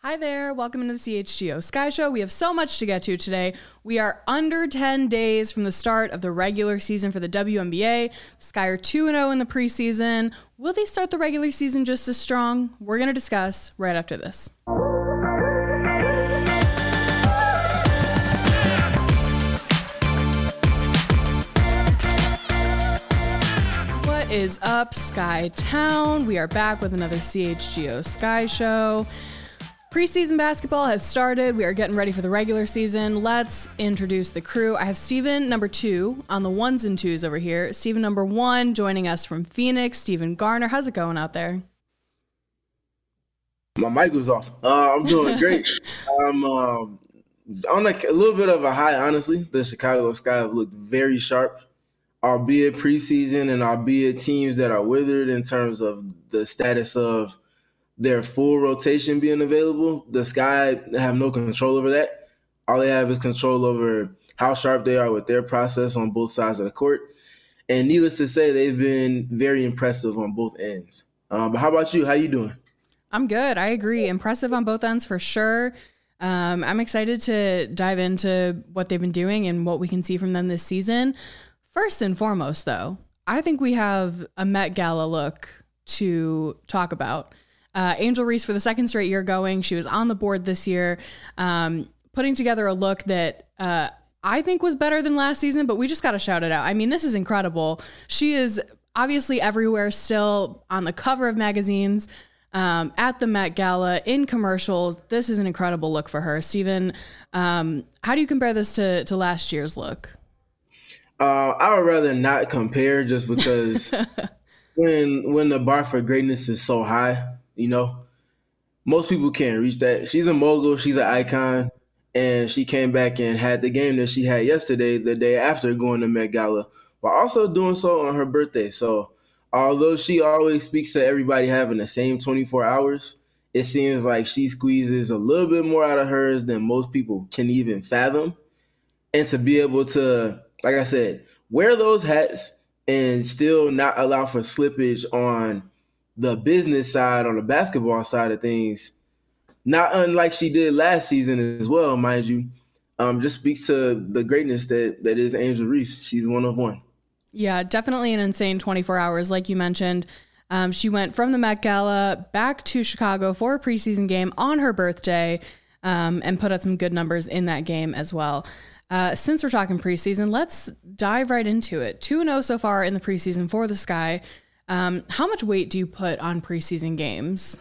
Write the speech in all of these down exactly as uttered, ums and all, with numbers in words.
Hi there, welcome into the C H G O Sky Show. We have so much to get to today. We are under ten days from the start of the regular season for the W N B A. Sky are two and oh in the preseason. Will they start the regular season just as strong? We're going to discuss right after this. What is up, Sky Town? We are back with another C H G O Sky Show. Preseason basketball has started. We are getting ready for the regular season. Let's introduce the crew. I have Steven, number two, on the ones and twos over here. Steven, number one, joining us from Phoenix. Steven Garner, how's it going out there? My mic was off. Uh, I'm doing great. I'm um, on like a little bit of a high, honestly. The Chicago Sky have looked very sharp, albeit preseason and albeit teams that are withered in terms of the status of their full rotation being available. The Sky have no control over that. All they have is control over how sharp they are with their process on both sides of the court. And needless to say, they've been very impressive on both ends. Um, but how about you? How you doing? I'm good. I agree. Impressive on both ends for sure. Um, I'm excited to dive into what they've been doing and what we can see from them this season. First and foremost, though, I think we have a Met Gala look to talk about. Uh, Angel Reese for the second straight year going. She was on the board this year, um, putting together a look that uh, I think was better than last season, but we just got to shout it out. I mean, this is incredible. She is obviously everywhere still, on the cover of magazines, um, at the Met Gala, in commercials. This is an incredible look for her. Steven, um, how do you compare this to, to last year's look? Uh, I would rather not compare just because when when the bar for greatness is so high, you know, most people can't reach that. She's a mogul. She's an icon. And she came back and had the game that she had yesterday, the day after going to Met Gala, while also doing so on her birthday. So although she always speaks to everybody having the same twenty-four hours, it seems like she squeezes a little bit more out of hers than most people can even fathom. And to be able to, like I said, wear those hats and still not allow for slippage on the business side, on the basketball side of things, not unlike she did last season as well, mind you, um, just speaks to the greatness that, that is Angel Reese. She's one of one. Yeah, definitely an insane twenty-four hours, like you mentioned. Um, she went from the Met Gala back to Chicago for a preseason game on her birthday, um, and put out some good numbers in that game as well. Uh, since we're talking preseason, let's dive right into it. two and oh so far in the preseason for the Sky. Um, how much weight do you put on preseason games?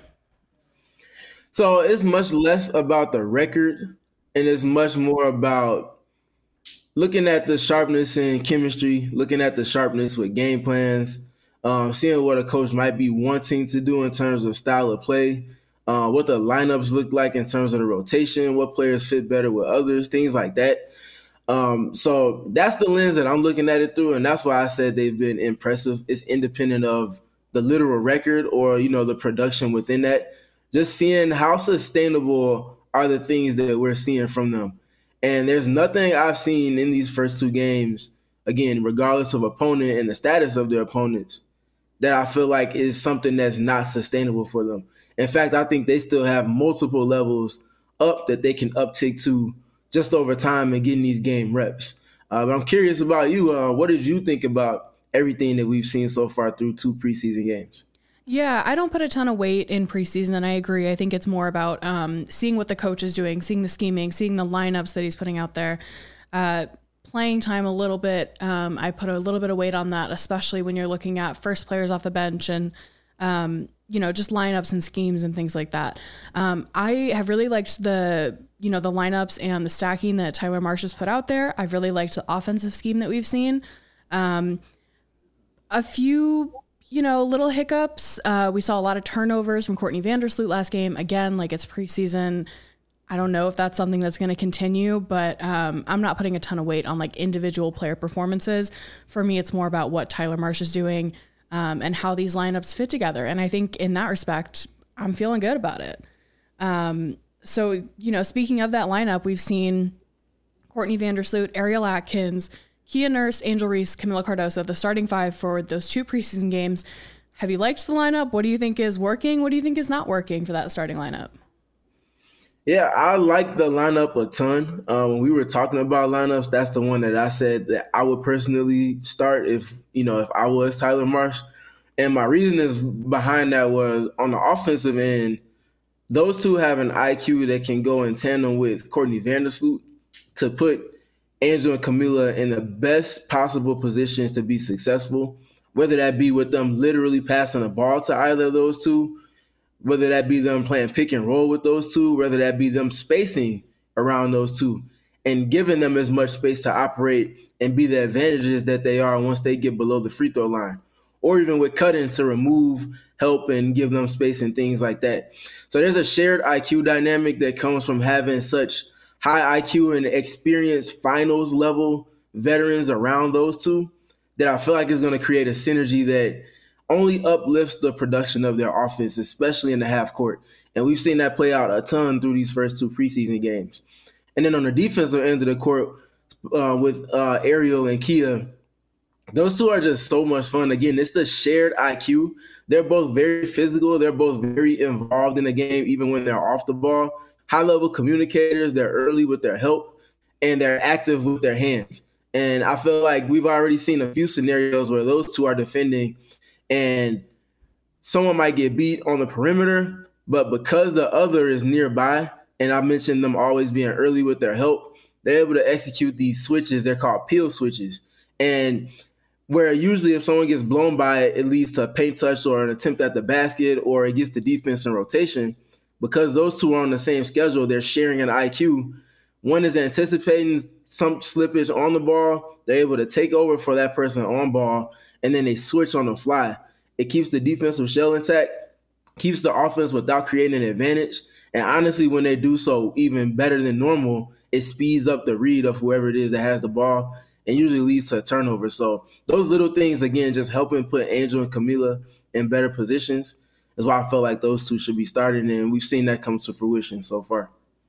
So it's much less about the record and it's much more about looking at the sharpness in chemistry, looking at the sharpness with game plans, um, seeing what a coach might be wanting to do in terms of style of play, uh, what the lineups look like in terms of the rotation, what players fit better with others, things like that. Um, so that's the lens that I'm looking at it through, and that's why I said they've been impressive. It's independent of the literal record or, you know, the production within that. Just seeing how sustainable are the things that we're seeing from them. And there's nothing I've seen in these first two games, again, regardless of opponent and the status of their opponents, that I feel like is something that's not sustainable for them. In fact, I think they still have multiple levels up that they can uptick to just over time and getting these game reps. Uh, but I'm curious about you. Uh, what did you think about everything that we've seen so far through two preseason games? Yeah, I don't put a ton of weight in preseason, and I agree. I think it's more about um, seeing what the coach is doing, seeing the scheming, seeing the lineups that he's putting out there. Uh, playing time a little bit, um, I put a little bit of weight on that, especially when you're looking at first players off the bench and um, you know, just lineups and schemes and things like that. Um, I have really liked the, you know, the lineups and the stacking that Tyler Marsh has put out there. I've really liked the offensive scheme that we've seen. Um, a few, you know, little hiccups. Uh, we saw a lot of turnovers from Courtney Vandersloot last game. Again, like it's preseason. I don't know if that's something that's going to continue, but um, I'm not putting a ton of weight on like individual player performances. For me, it's more about what Tyler Marsh is doing um, and how these lineups fit together. And I think in that respect, I'm feeling good about it. Um, so, you know, speaking of that lineup, we've seen Courtney Vandersloot, Ariel Atkins, Kia Nurse, Angel Reese, Camila Cardoso, the starting five for those two preseason games. Have you liked the lineup? What do you think is working? What do you think is not working for that starting lineup? Yeah, I like the lineup a ton. Uh, when we were talking about lineups, that's the one that I said that I would personally start if you know if I was Tyler Marsh. And my reason is behind that was on the offensive end, those two have an I Q that can go in tandem with Courtney Vandersloot to put Angel and Camila in the best possible positions to be successful, whether that be with them literally passing the ball to either of those two, whether that be them playing pick and roll with those two, whether that be them spacing around those two and giving them as much space to operate and be the advantages that they are once they get below the free throw line, or even with cutting to remove, help, and give them space and things like that. So there's a shared I Q dynamic that comes from having such high I Q and experienced finals level veterans around those two that I feel like is going to create a synergy that only uplifts the production of their offense, especially in the half court. And we've seen that play out a ton through these first two preseason games. And then on the defensive end of the court, uh, with uh, Ariel and Kia, those two are just so much fun. Again, it's the shared I Q. They're both very physical. They're both very involved in the game, even when they're off the ball. High-level communicators. They're early with their help, and they're active with their hands. And I feel like we've already seen a few scenarios where those two are defending, and someone might get beat on the perimeter, but because the other is nearby, and I mentioned them always being early with their help, they're able to execute these switches. They're called peel switches. And where usually if someone gets blown by it, it leads to a paint touch or an attempt at the basket, or it gets the defense in rotation. Because those two are on the same schedule, they're sharing an I Q. One is anticipating some slippage on the ball. They're able to take over for that person on ball, and then they switch on the fly. It keeps the defensive shell intact, keeps the offense without creating an advantage. And honestly, when they do so even better than normal, it speeds up the read of whoever it is that has the ball and usually leads to a turnover. So those little things, again, just helping put Angel and Camila in better positions is why I felt like those two should be starting. And we've seen that come to fruition so far.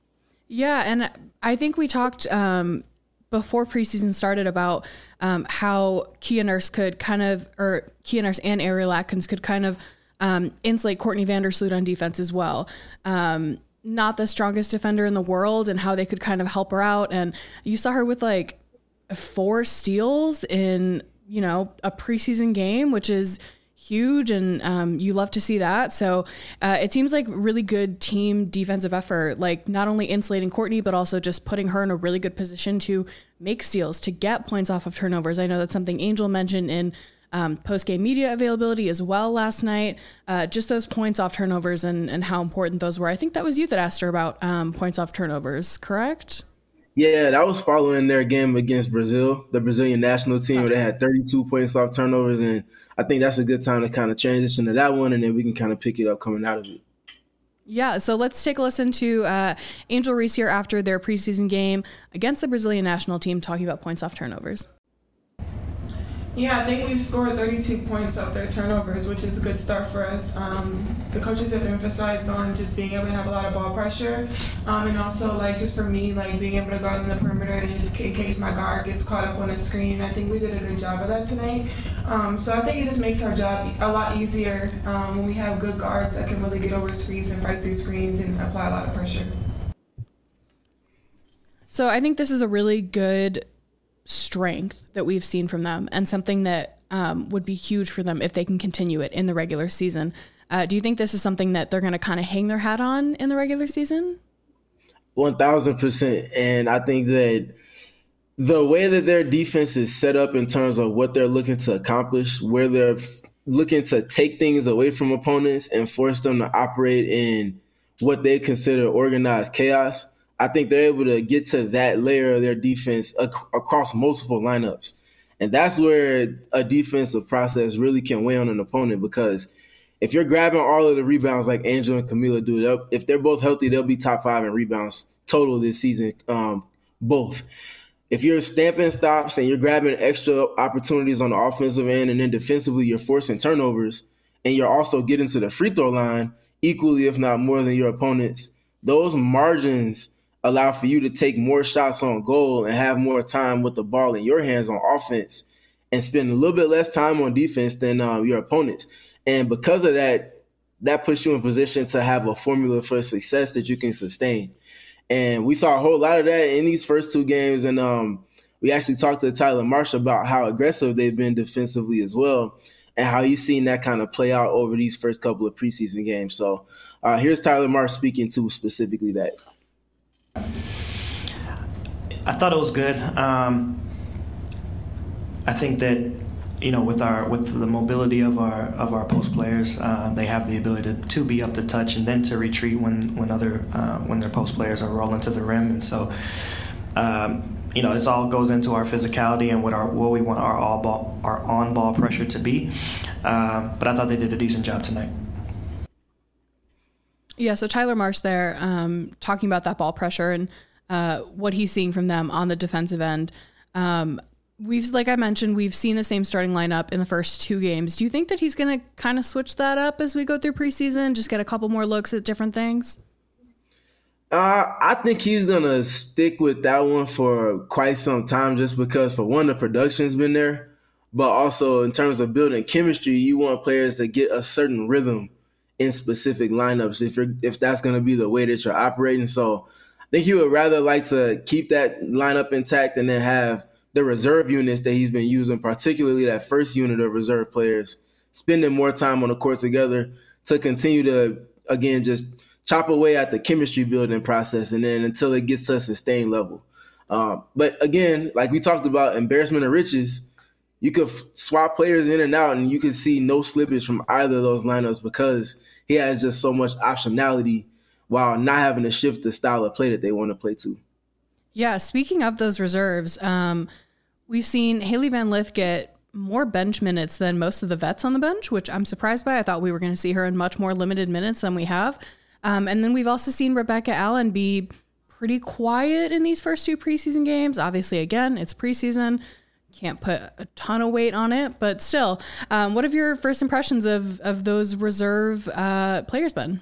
Yeah, and I think we talked um, before preseason started about um, how Kia Nurse could kind of, or Kia Nurse and Ariel Atkins could kind of um, insulate Courtney Vandersloot on defense as well. Um, not the strongest defender in the world, and how they could kind of help her out. And you saw her with like four steals in, you know, a preseason game, which is huge, and um, you love to see that. So uh, it seems like really good team defensive effort, like not only insulating Courtney, but also just putting her in a really good position to make steals, to get points off of turnovers. I know that's something Angel mentioned in um, post-game media availability as well last night, uh, just those points off turnovers and, and how important those were. I think that was you that asked her about um, points off turnovers, correct? Yeah, that was following their game against Brazil, the Brazilian national team, where they had thirty-two points off turnovers. And I think that's a good time to kind of transition to that one, and then we can kind of pick it up coming out of it. Yeah, so let's take a listen to uh, Angel Reese here after their preseason game against the Brazilian national team, talking about points off turnovers. Yeah, I think we scored thirty-two points off their turnovers, which is a good start for us. Um, the coaches have emphasized on just being able to have a lot of ball pressure, um, and also like just for me, like being able to guard on the perimeter if, in case my guard gets caught up on a screen. I think we did a good job of that tonight. Um, so I think it just makes our job a lot easier um, when we have good guards that can really get over screens and fight through screens and apply a lot of pressure. So I think this is a really good strength that we've seen from them, and something that um, would be huge for them if they can continue it in the regular season. Uh, do you think this is something that they're going to kind of hang their hat on in the regular season? one thousand percent. And I think that the way that their defense is set up in terms of what they're looking to accomplish, where they're looking to take things away from opponents and force them to operate in what they consider organized chaos, I think they're able to get to that layer of their defense ac- across multiple lineups. And that's where a defensive process really can weigh on an opponent, because if you're grabbing all of the rebounds like Angel and Camila do, if they're both healthy, they'll be top five in rebounds total this season, um, both. If you're stamping stops and you're grabbing extra opportunities on the offensive end, and then defensively you're forcing turnovers, and you're also getting to the free throw line equally, if not more than your opponents, those margins allow for you to take more shots on goal and have more time with the ball in your hands on offense and spend a little bit less time on defense than uh, your opponents. And because of that, that puts you in position to have a formula for success that you can sustain. And we saw a whole lot of that in these first two games. And um, we actually talked to Tyler Marsh about how aggressive they've been defensively as well, and how he's seen that kind of play out over these first couple of preseason games. So uh, here's Tyler Marsh speaking to specifically that. I thought it was good. Um, I think that, you know, with our with the mobility of our of our post players, uh, they have the ability to, to be up to touch and then to retreat when when other uh, when their post players are rolling to the rim. And so, um, you know, this all goes into our physicality and what our what we want our all ball our on ball pressure to be. Um, but I thought they did a decent job tonight. Yeah. So Tyler Marsh there, um, talking about that ball pressure and uh, what he's seeing from them on the defensive end. Um, We've, like I mentioned, we've seen the same starting lineup in the first two games. Do you think that he's going to kind of switch that up as we go through preseason, just get a couple more looks at different things? Uh, I think he's going to stick with that one for quite some time, just because, for one, the production's been there, but also in terms of building chemistry, you want players to get a certain rhythm in specific lineups if you're if that's going to be the way that you're operating. So I think he would rather like to keep that lineup intact and then have the reserve units that he's been using, particularly that first unit of reserve players, spending more time on the court together to continue to, again, just chop away at the chemistry building process, and then until it gets to a sustained level. Um, but again, like we talked about, embarrassment of riches, you could f- swap players in and out, and you could see no slippage from either of those lineups because he has just so much optionality while not having to shift the style of play that they want to play to. Yeah, speaking of those reserves, um, we've seen Hailey Van Lith get more bench minutes than most of the vets on the bench, which I'm surprised by. I thought we were going to see her in much more limited minutes than we have. Um, and then we've also seen Rebecca Allen be pretty quiet in these first two preseason games. Obviously, again, it's preseason. Can't put a ton of weight on it, but still. Um, what have your first impressions of, of those reserve uh, players been?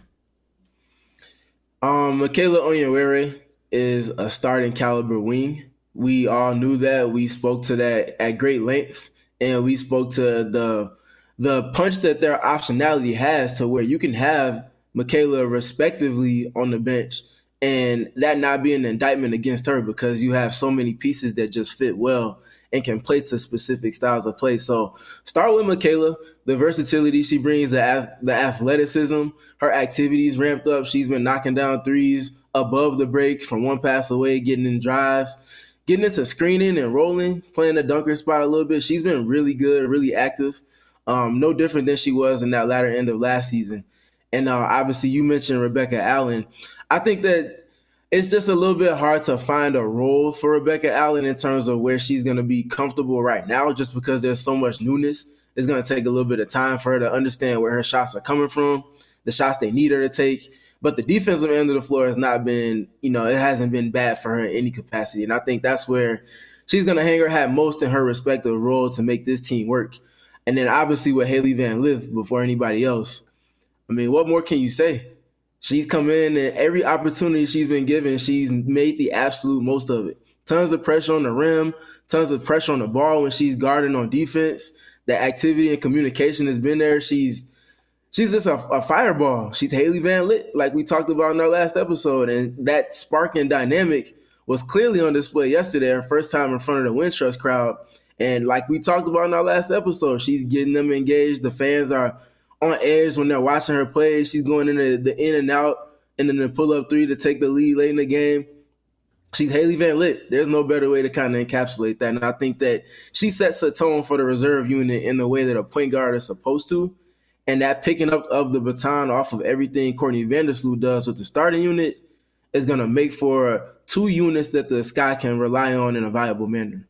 Um, Michaela Onyenwere is a starting caliber wing. We all knew that. We spoke to that at great lengths, and we spoke to the the punch that their optionality has to where you can have Michaela respectively on the bench and that not be an indictment against her because you have so many pieces that just fit well and can play to specific styles of play. So start with Michaela, the versatility she brings, the, the athleticism, her activities ramped up. She's been knocking down threes above the break from one pass away, getting in drives, getting into screening and rolling, playing the dunker spot a little bit. She's been really good, really active, um, no different than she was in that latter end of last season. And uh, obviously you mentioned Rebecca Allen. I think that it's just a little bit hard to find a role for Rebecca Allen in terms of where she's going to be comfortable right now, just because there's so much newness. It's going to take a little bit of time for her to understand where her shots are coming from, the shots they need her to take. But the defensive end of the floor has not been, you know, it hasn't been bad for her in any capacity. And I think that's where she's going to hang her hat most in her respective role to make this team work. And then obviously with Hailey Van Lith before anybody else, I mean, what more can you say? She's come in and every opportunity she's been given, she's made the absolute most of it. Tons of pressure on the rim, tons of pressure on the ball when she's guarding on defense. The activity and communication has been there. She's She's just a, a fireball. She's Hailey Van Lith, like we talked about in our last episode. And that spark and dynamic was clearly on display yesterday, her first time in front of the Wintrust crowd. And like we talked about in our last episode, she's getting them engaged. The fans are on edge when they're watching her play. She's going into the in and out and then the pull-up three to take the lead late in the game. She's Hailey Van Lith. There's no better way to kind of encapsulate that. And I think that she sets a tone for the reserve unit in the way that a point guard is supposed to. And that picking up of the baton off of everything Courtney Vandersloot does with the starting unit is going to make for two units that the Sky can rely on in a viable manner.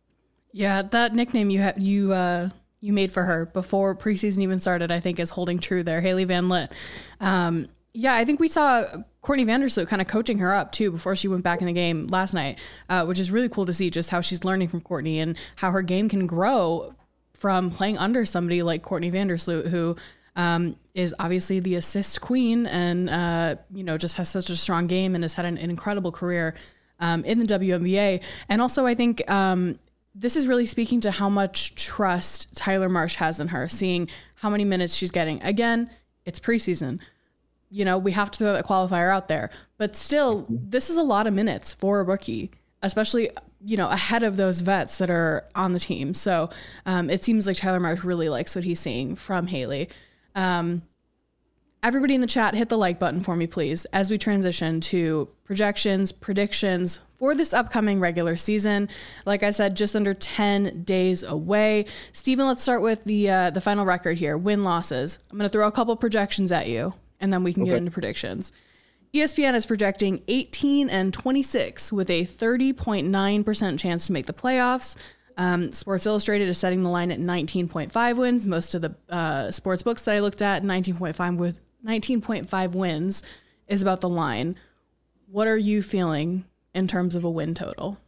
Yeah, that nickname you ha- you uh, you made for her before preseason even started, I think, is holding true there, Hailey Van Lith. Um, yeah, I think we saw Courtney Vandersloot kind of coaching her up, too, before she went back in the game last night, uh, which is really cool to see just how she's learning from Courtney and how her game can grow from playing under somebody like Courtney Vandersloot, who um, is obviously the assist queen and, uh, you know, just has such a strong game and has had an, an incredible career um, in the W N B A. And also, I think um, this is really speaking to how much trust Tyler Marsh has in her, seeing how many minutes she's getting. Again, it's preseason. You know, we have to throw that qualifier out there. But still, this is a lot of minutes for a rookie, especially, you know, ahead of those vets that are on the team. So um, it seems like Tyler Marsh really likes what he's seeing from Haley. Um, everybody in the chat, hit the like button for me, please, as we transition to projections, predictions for this upcoming regular season. Like I said, just under ten days away. Steven, let's start with the uh, the final record here, win-losses. I'm going to throw a couple projections at you, and then we can okay. get into predictions. E S P N is projecting eighteen and twenty-six with a thirty point nine percent chance to make the playoffs. Um, Sports Illustrated is setting the line at nineteen point five wins. Most of the uh, sports books that I looked at, nineteen point five with nineteen point five wins is about the line. What are you feeling in terms of a win total?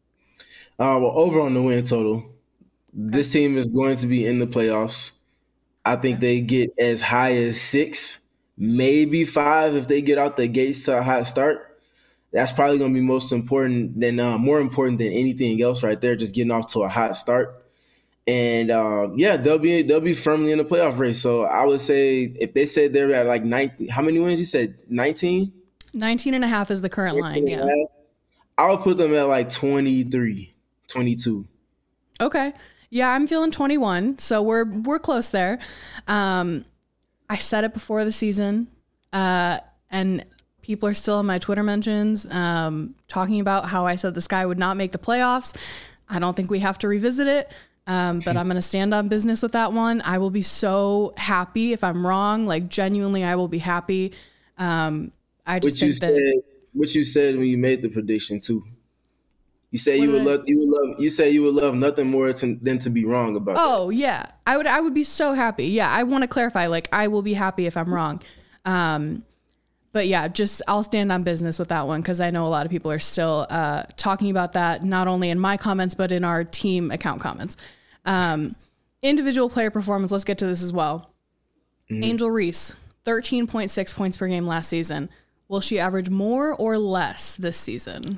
Uh, well, over on the win total, this team is going to be in the playoffs. I think they get as high as six, maybe five if they get out the gates to a hot start. That's probably going to be most important than uh, more important than anything else right there, just getting off to a hot start. And uh, yeah, they'll be they'll be firmly in the playoff race. So I would say if they said they're at like nineteen, how many wins? You said nineteen? nineteen and a half is the current line, yeah. I would put them at like twenty-three, twenty-two. Okay. Yeah, I'm feeling twenty-one, so we're we're close there. Um, I said it before the season, uh, and people are still in my Twitter mentions um, talking about how I said the Sky would not make the playoffs. I don't think we have to revisit it, um, but I'm going to stand on business with that one. I will be so happy if I'm wrong. Like, genuinely, I will be happy. Um, I just what think you that... Said, what you said when you made the prediction, too. You say you would love you would love you say you would love nothing more to, than to be wrong about Oh, that. yeah. I would I would be so happy. Yeah, I want to clarify, like, I will be happy if I'm wrong. Um, but yeah, just I'll stand on business with that one because I know a lot of people are still uh, talking about that, not only in my comments, but in our team account comments. Um, individual player performance, let's get to this as well. Mm-hmm. Angel Reese, thirteen point six points per game last season. Will she average more or less this season?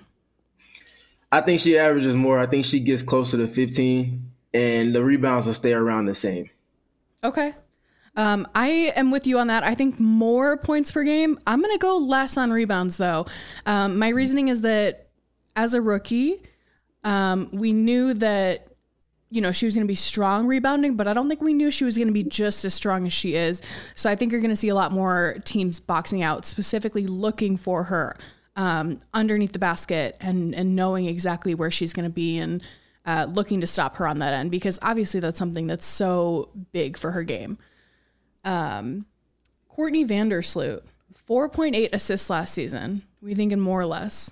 I think she averages more. I think she gets closer to fifteen, and the rebounds will stay around the same. Okay. Um, I am with you on that. I think more points per game. I'm going to go less on rebounds, though. Um, my reasoning is that as a rookie, um, we knew that, you know, she was going to be strong rebounding, but I don't think we knew she was going to be just as strong as she is. So I think you're going to see a lot more teams boxing out, specifically looking for her. Um, underneath the basket and, and knowing exactly where she's going to be and uh, looking to stop her on that end, because obviously that's something that's so big for her game. Um, Courtney Vandersloot, four point eight assists last season. We thinking more or less?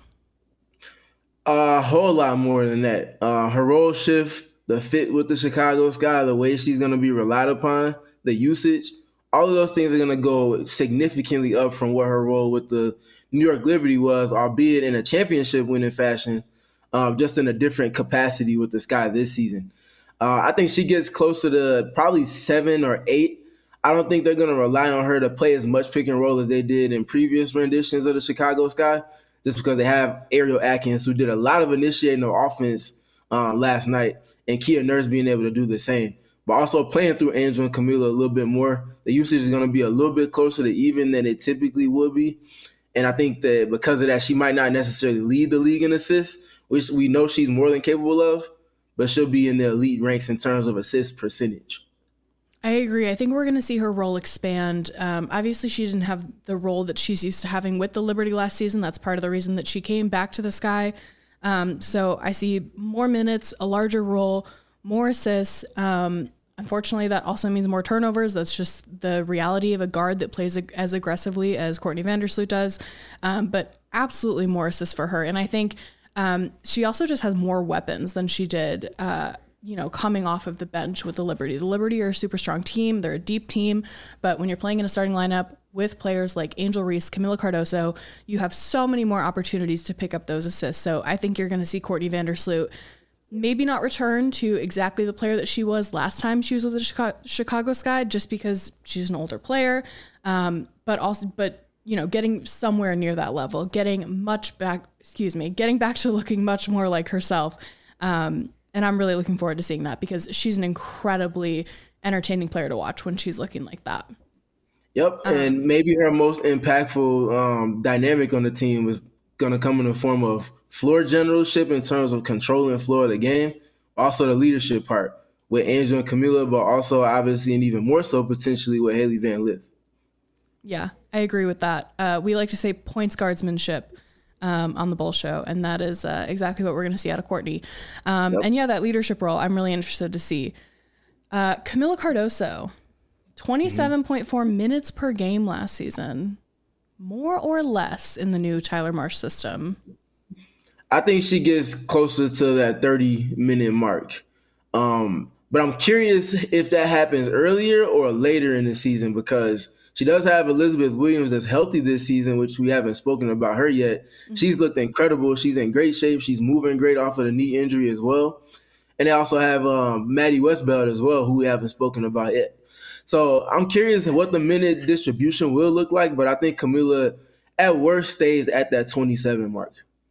A whole lot more than that. Uh, her role shift, the fit with the Chicago Sky, the way she's going to be relied upon, the usage, all of those things are going to go significantly up from what her role with the New York Liberty was, albeit in a championship winning fashion, um, just in a different capacity with the Sky this season. Uh, I think she gets closer to probably seven or eight. I don't think they're going to rely on her to play as much pick and roll as they did in previous renditions of the Chicago Sky, just because they have Ariel Atkins, who did a lot of initiating of offense uh, last night, and Kia Nurse being able to do the same. But also playing through Angel and Camila a little bit more, the usage is going to be a little bit closer to even than it typically would be. And I think that because of that, she might not necessarily lead the league in assists, which we know she's more than capable of, but she'll be in the elite ranks in terms of assist percentage. I agree. I think we're going to see her role expand. Um, obviously, she didn't have the role that she's used to having with the Liberty last season. That's part of the reason that she came back to the Sky. Um, so I see more minutes, a larger role, more assists. Um, Unfortunately, that also means more turnovers. That's just the reality of a guard that plays as aggressively as Courtney Vandersloot does. Um, but absolutely more assists for her. And I think um, she also just has more weapons than she did, uh, you know, coming off of the bench with the Liberty. The Liberty are a super strong team. They're a deep team. But when you're playing in a starting lineup with players like Angel Reese, Camila Cardoso, you have so many more opportunities to pick up those assists. So I think you're going to see Courtney Vandersloot maybe not return to exactly the player that she was last time she was with the Chicago, Chicago Sky, just because she's an older player. Um, but also, but you know, getting somewhere near that level, getting much back, excuse me, getting back to looking much more like herself. Um, and I'm really looking forward to seeing that because she's an incredibly entertaining player to watch when she's looking like that. Yep, Um, and maybe her most impactful um, dynamic on the team was going to come in the form of floor generalship in terms of controlling floor of the game, also the leadership part with Angel and Camilla, but also obviously and even more so potentially with Haley Van Lith. Yeah, I agree with that. Uh, we like to say points guardsmanship um, on the Bull Show, and that is uh, exactly what we're going to see out of Courtney. Um, Yep. And yeah, that leadership role, I'm really interested to see. Uh, Camila Cardoso, twenty-seven point four mm-hmm. minutes per game last season, more or less in the new Tyler Marsh system. I think she gets closer to that thirty-minute mark. Um, but I'm curious if that happens earlier or later in the season because she does have Elizabeth Williams that's healthy this season, which we haven't spoken about her yet. Mm-hmm. She's looked incredible. She's in great shape. She's moving great off of the knee injury as well. And they also have um, Maddie Westbeld as well, who we haven't spoken about yet. So I'm curious what the minute distribution will look like, but I think Camila at worst stays at that twenty-seven mark.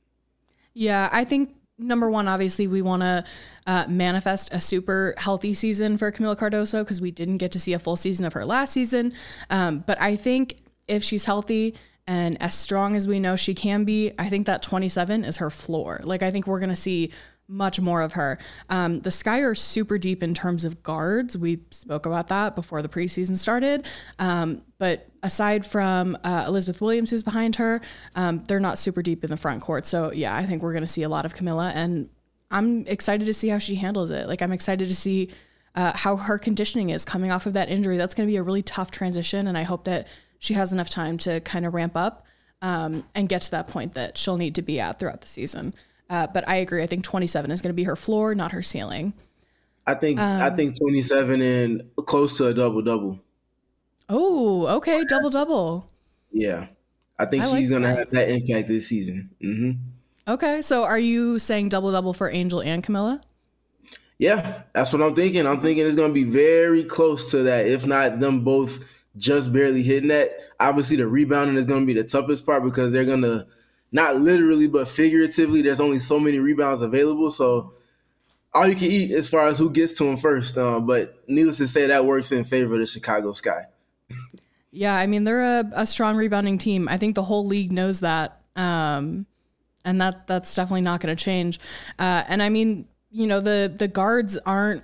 Yeah, I think number one, obviously, we want to uh, manifest a super healthy season for Camila Cardoso because we didn't get to see a full season of her last season. Um, but I think if she's healthy and as strong as we know she can be, I think that twenty-seven is her floor. Like, I think we're going to see much more of her. Um, the Sky are super deep in terms of guards. We spoke about that before the preseason started. Um, but aside from uh, Elizabeth Williams, who's behind her, um, they're not super deep in the front court. So yeah, I think we're going to see a lot of Camila, and I'm excited to see how she handles it. Like, I'm excited to see uh, how her conditioning is coming off of that injury. That's going to be a really tough transition. And I hope that she has enough time to kind of ramp up um, and get to that point that she'll need to be at throughout the season. Uh, but I agree. I think twenty-seven is going to be her floor, not her ceiling. I think Um, I think twenty-seven and close to a double double. Oh, okay, double double. Yeah, I think I she's like gonna that. have that impact this season. Mm-hmm. Okay, so are you saying double double for Angel and Camilla? Yeah, that's what I'm thinking. I'm thinking it's gonna be very close to that, if not them both just barely hitting that. Obviously, the rebounding is gonna be the toughest part because they're gonna. Not literally, but figuratively, there's only so many rebounds available. So all you can eat as far as who gets to them first. Uh, but needless to say, that works in favor of the Chicago Sky. Yeah, I mean, they're a, a strong rebounding team. I think the whole league knows that. Um, and that that's definitely not going to change. Uh, and I mean, you know, the, the guards aren't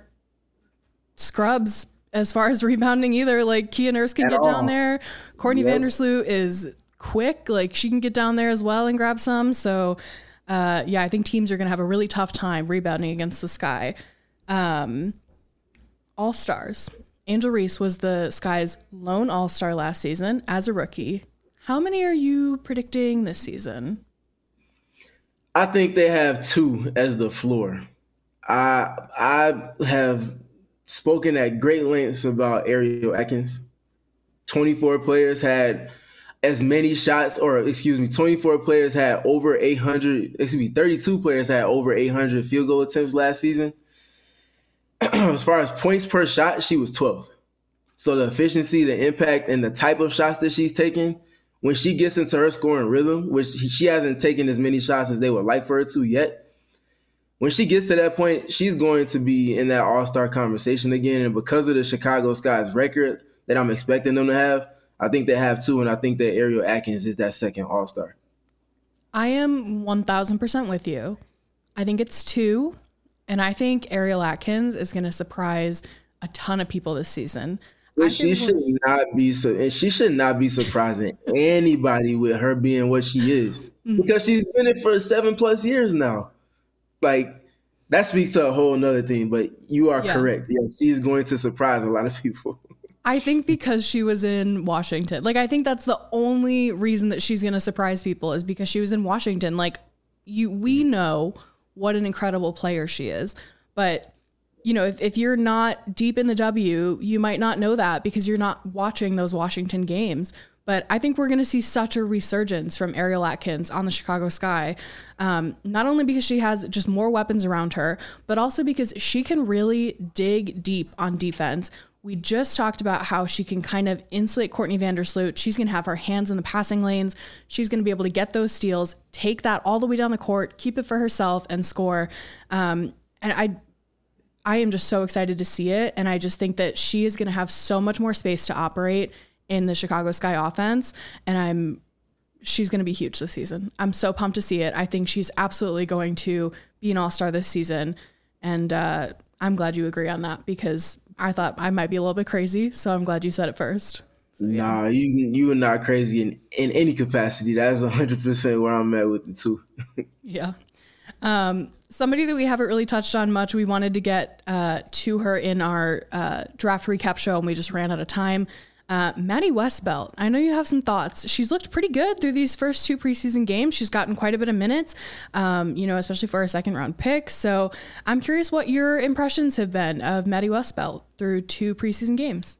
scrubs as far as rebounding either. Like, Kia Nurse can At get all. down there. Courtney Yep. Vandersloot is quick. Like, she can get down there as well and grab some. So, uh, yeah, I think teams are going to have a really tough time rebounding against the Sky. Um, All-Stars. Angel Reese was the Sky's lone All-Star last season as a rookie. How many are you predicting this season? I think they have two as the floor. I I have spoken at great lengths about Ariel Atkins. twenty-four players had as many shots, or excuse me, twenty-four players had over eight hundred, excuse me, thirty-two players had over eight hundred field goal attempts last season. As far as points per shot, she was twelfth. So the efficiency, the impact, and the type of shots that she's taking, when she gets into her scoring rhythm, which she hasn't taken as many shots as they would like for her to yet, when she gets to that point, she's going to be in that all-star conversation again. And because of the Chicago Sky's record that I'm expecting them to have, I think they have two, and I think that Ariel Atkins is that second all-star. I am one thousand percent with you. I think it's two, and I think Ariel Atkins is going to surprise a ton of people this season. I But she think should we're- not be so, and she should not be surprising anybody with her being what she is, because she's been it for seven plus years now. Like, that speaks to a whole nother thing. But you are Yeah. correct. Yeah, she's going to surprise a lot of people. I think because she was in Washington. Like, I think that's the only reason that she's going to surprise people is because she was in Washington. Like, you, we know what an incredible player she is, but you know, if, if you're not deep in the W, you might not know that because you're not watching those Washington games. But I think we're going to see such a resurgence from Ariel Atkins on the Chicago Sky, um, not only because she has just more weapons around her, but also because she can really dig deep on defense. We just talked about how she can kind of insulate Courtney Vandersloot. She's going to have her hands in the passing lanes. She's going to be able to get those steals, take that all the way down the court, keep it for herself, and score. Um, and I I am just so excited to see it. And I just think that she is going to have so much more space to operate in the Chicago Sky offense. And I'm, she's going to be huge this season. I'm so pumped to see it. I think she's absolutely going to be an all-star this season. And uh, I'm glad you agree on that, because I thought I might be a little bit crazy. So I'm glad you said it first. So, yeah. Nah, you you are not crazy in, in any capacity. That's one hundred percent where I'm at with it too. Yeah. Um, somebody that we haven't really touched on much, we wanted to get uh, to her in our uh, draft recap show, and we just ran out of time. Uh, Maddie Westbelt, I know you have some thoughts. She's looked pretty good through these first two preseason games. She's gotten quite a bit of minutes, um, you know, especially for a second round pick. So I'm curious what your impressions have been of Maddie Westbelt through two preseason games.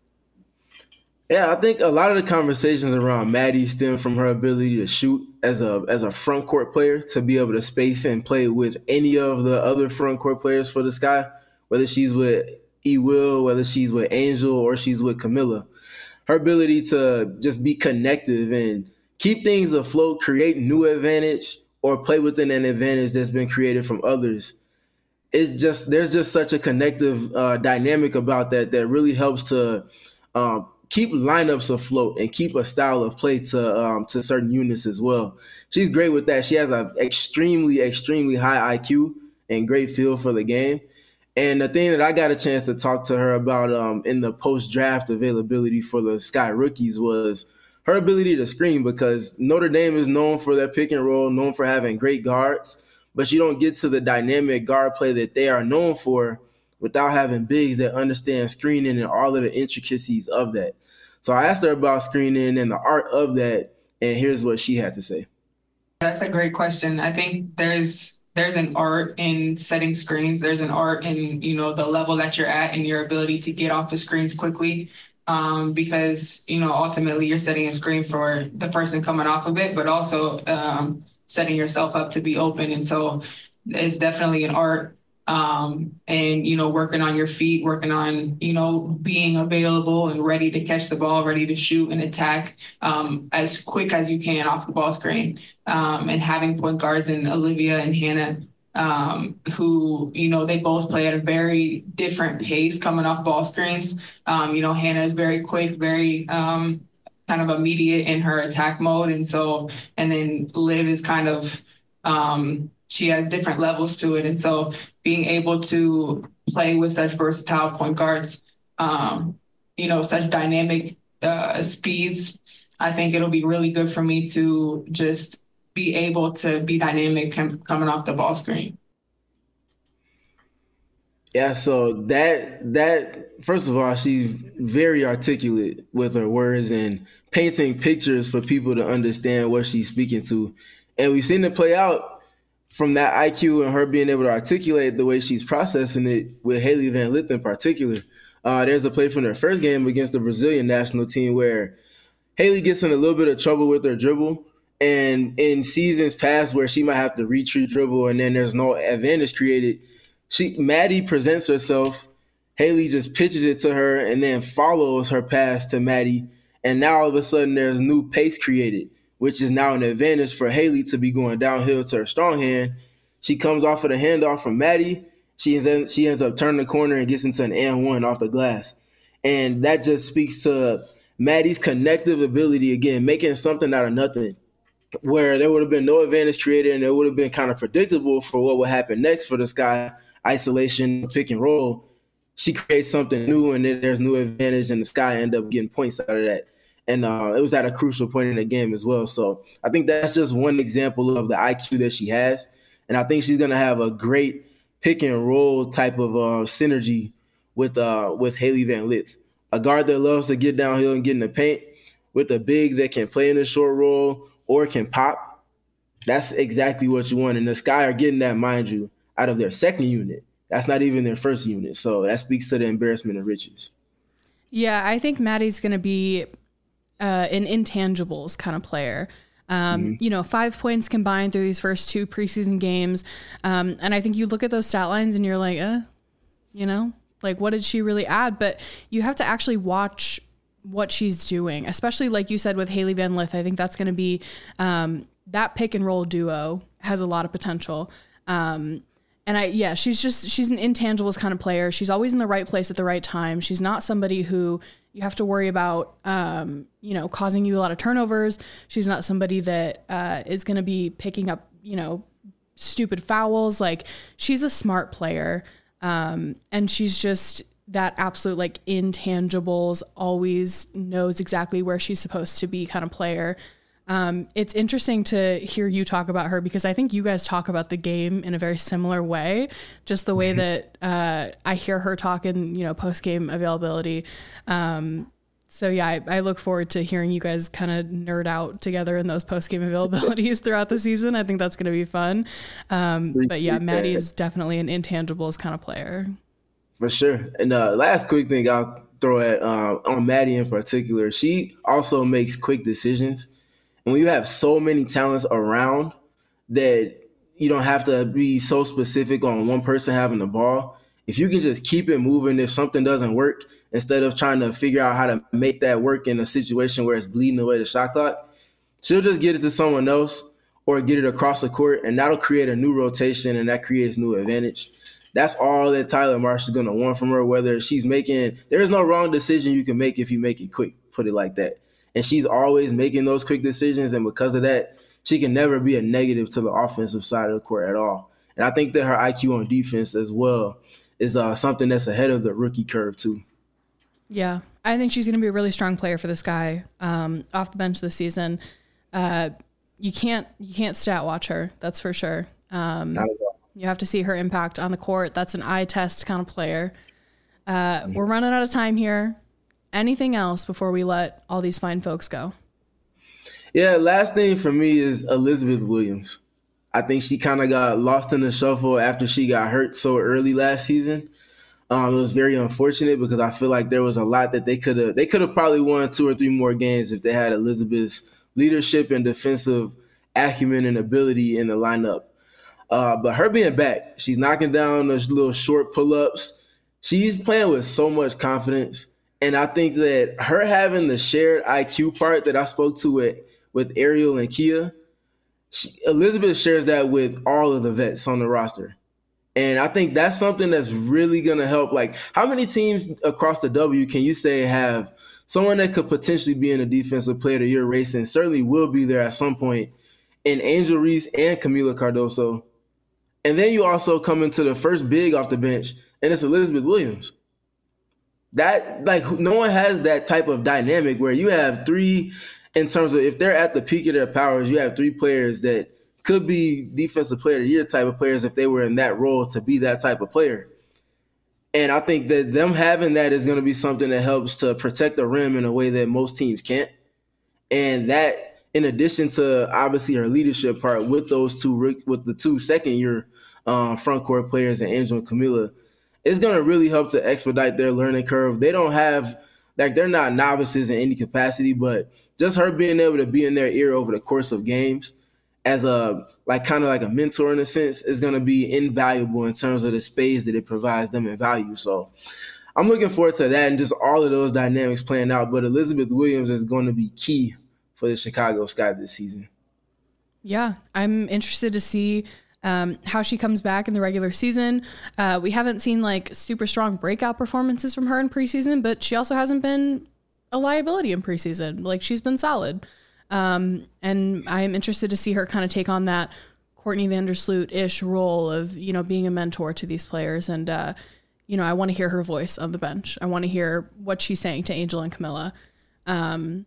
Yeah, I think a lot of the conversations around Maddie stem from her ability to shoot as a as a front court player, to be able to space and play with any of the other front court players for the Sky, whether she's with E. Will, whether she's with Angel, or she's with Camilla. Her ability to just be connective and keep things afloat, create new advantage, or play within an advantage that's been created from others. It's just there's just such a connective uh, dynamic about that that really helps to um, keep lineups afloat and keep a style of play to um, to certain units as well. She's great with that. She has an extremely, extremely high I Q and great feel for the game. And the thing that I got a chance to talk to her about um, in the post-draft availability for the Sky rookies was her ability to screen, because Notre Dame is known for their pick and roll, known for having great guards, but you don't get to the dynamic guard play that they are known for without having bigs that understand screening and all of the intricacies of that. So I asked her about screening and the art of that, and here's what she had to say. That's a great question. I think there's there's an art in setting screens. There's an art in, you know, the level that you're at and your ability to get off the screens quickly, um, because, you know, ultimately you're setting a screen for the person coming off of it, but also um, setting yourself up to be open. And so it's definitely an art. Um, and, you know, working on your feet, working on, you know, being available and ready to catch the ball, ready to shoot and attack um, as quick as you can off the ball screen. Um, and having point guards in Olivia and Hannah, um, who, you know, they both play at a very different pace coming off ball screens. Um, you know, Hannah is very quick, very um, kind of immediate in her attack mode. And so, and then Liv is kind of, um, she has different levels to it. And so being able to play with such versatile point guards, um, you know, such dynamic uh, speeds, I think it'll be really good for me to just be able to be dynamic com- coming off the ball screen. Yeah, so that, that first of all, she's very articulate with her words and painting pictures for people to understand what she's speaking to. And we've seen it play out from that I Q and her being able to articulate the way she's processing it with Hailey Van Lith in particular. Uh, there's a play from their first game against the Brazilian national team where Hailey gets in a little bit of trouble with her dribble. And in seasons past where she might have to retreat dribble and then there's no advantage created, she Maddie presents herself, Hailey just pitches it to her and then follows her pass to Maddie. And now all of a sudden there's new pace created, which is now an advantage for Hailey to be going downhill to her strong hand. She comes off of the handoff from Maddie. She ends, she ends up turning the corner and gets into an and one off the glass. And that just speaks to Maddie's connective ability, again, making something out of nothing, where there would have been no advantage created and it would have been kind of predictable for what would happen next for the Sky, isolation, pick and roll. She creates something new and then there's new advantage and the Sky end up getting points out of that. And uh, it was at a crucial point in the game as well. So I think that's just one example of the I Q that she has. And I think she's going to have a great pick and roll type of uh, synergy with uh, with Hailey Van Lith, a guard that loves to get downhill and get in the paint, with a big that can play in the short roll or can pop. That's exactly what you want. And the Sky are getting that, mind you, out of their second unit. That's not even their first unit. So that speaks to the embarrassment of riches. Yeah, I think Maddie's going to be Uh, an intangibles kind of player. Um, mm-hmm. You know, five points combined through these first two preseason games. Um, and I think you look at those stat lines and you're like, uh, you know, like what did she really add? But you have to actually watch what she's doing, especially like you said with Hailey Van Lith. I think that's going to be um, that pick and roll duo has a lot of potential. Um, And I, yeah, she's just, she's an intangibles kind of player. She's always in the right place at the right time. She's not somebody who you have to worry about, um, you know, causing you a lot of turnovers. She's not somebody that uh, is going to be picking up, you know, stupid fouls. Like, she's a smart player. Um, and she's just that absolute, like, intangibles, always knows exactly where she's supposed to be kind of player. Um, it's interesting to hear you talk about her because I think you guys talk about the game in a very similar way, just the way that uh, I hear her talk in, you know, post-game availability. Um, so yeah, I, I look forward to hearing you guys kind of nerd out together in those post-game availabilities throughout the season. I think that's going to be fun. Um, but yeah, Maddie is definitely an intangibles kind of player. For sure. And uh, last quick thing I'll throw at uh, on Maddie in particular, she also makes quick decisions. And when you have so many talents around that you don't have to be so specific on one person having the ball, if you can just keep it moving, if something doesn't work, instead of trying to figure out how to make that work in a situation where it's bleeding away the shot clock, she'll just get it to someone else or get it across the court, and that'll create a new rotation, and that creates new advantage. That's all that Tyler Marsh is going to want from her, whether she's making – there's no wrong decision you can make if you make it quick, put it like that. And she's always making those quick decisions, and because of that, she can never be a negative to the offensive side of the court at all. And I think that her I Q on defense as well is uh, something that's ahead of the rookie curve too. Yeah, I think she's going to be a really strong player for this guy um, off the bench this season. Uh, you can't you can't stat watch her, that's for sure. Um, Not at all. You have to see her impact on the court. That's an eye test kind of player. Uh, mm-hmm. We're running out of time here. Anything else before we let all these fine folks go? Yeah, last thing for me is Elizabeth Williams. I think she kind of got lost in the shuffle after she got hurt so early last season. Um, it was very unfortunate because I feel like there was a lot that they could have they could have probably won two or three more games if they had Elizabeth's leadership and defensive acumen and ability in the lineup. Uh, but her being back, she's knocking down those little short pull-ups. She's playing with so much confidence. And I think that her having the shared I Q part that I spoke to with, with Ariel and Kia, she, Elizabeth shares that with all of the vets on the roster. And I think that's something that's really going to help. Like, how many teams across the W can you say have someone that could potentially be in a defensive player of the year race and certainly will be there at some point in Angel Reese and Camila Cardoso? And then you also come into the first big off the bench, and it's Elizabeth Williams. That, like, no one has that type of dynamic where you have three, in terms of if they're at the peak of their powers, you have three players that could be defensive player of the year type of players if they were in that role to be that type of player. And I think that them having that is going to be something that helps to protect the rim in a way that most teams can't. And that, in addition to obviously her leadership part with those two, with the two second year um, front court players and Angel and Camila, it's going to really help to expedite their learning curve. They don't have, like, they're not novices in any capacity, but just her being able to be in their ear over the course of games as a, like, kind of like a mentor in a sense is going to be invaluable in terms of the space that it provides them in value. So I'm looking forward to that and just all of those dynamics playing out. But Elizabeth Williams is going to be key for the Chicago Sky this season. Yeah, I'm interested to see Um, how she comes back in the regular season. Uh, we haven't seen like super strong breakout performances from her in preseason, but she also hasn't been a liability in preseason. Like, she's been solid. Um, and I'm interested to see her kind of take on that Courtney Vandersloot-ish role of, you know, being a mentor to these players. And, uh, you know, I want to hear her voice on the bench. I want to hear what she's saying to Angel and Camila. Um,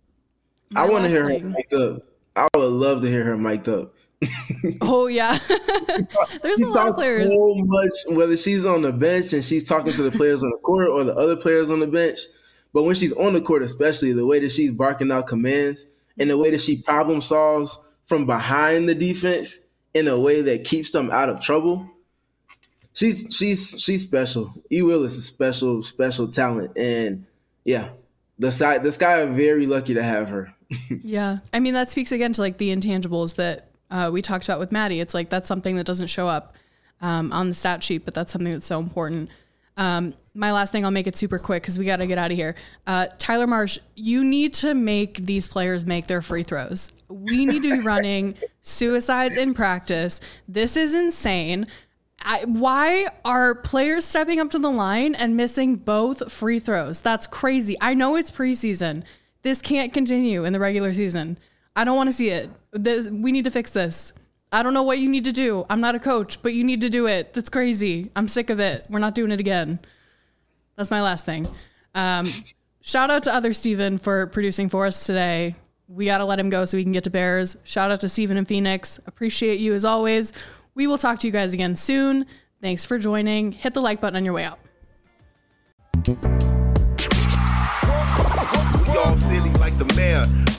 I want to hear thing, her mic'd up. I would love to hear her mic'd up. Oh yeah. There's she a lot of players so much, whether she's on the bench and she's talking to the players on the court or the other players on the bench, but when she's on the court, especially the way that she's barking out commands and the way that she problem solves from behind the defense in a way that keeps them out of trouble, she's she's she's special. E. Will is a special special talent, and yeah, the sky the Sky are very lucky to have her. Yeah, I mean, that speaks again to like the intangibles that Uh, we talked about with Maddie. It's like that's something that doesn't show up um, on the stat sheet, but that's something that's so important. Um, my last thing, I'll make it super quick because we got to get out of here. Uh, Tyler Marsh, you need to make these players make their free throws. We need to be running suicides in practice. This is insane. I, why are players stepping up to the line and missing both free throws? That's crazy. I know it's preseason. This can't continue in the regular season. I don't want to see it. This, we need to fix this. I don't know what you need to do. I'm not a coach, but you need to do it. That's crazy. I'm sick of it. We're not doing it again. That's my last thing. Um, shout out to other Steven for producing for us today. We got to let him go so we can get to Bears. Shout out to Steven in Phoenix. Appreciate you as always. We will talk to you guys again soon. Thanks for joining. Hit the like button on your way out. We all silly like the mayor.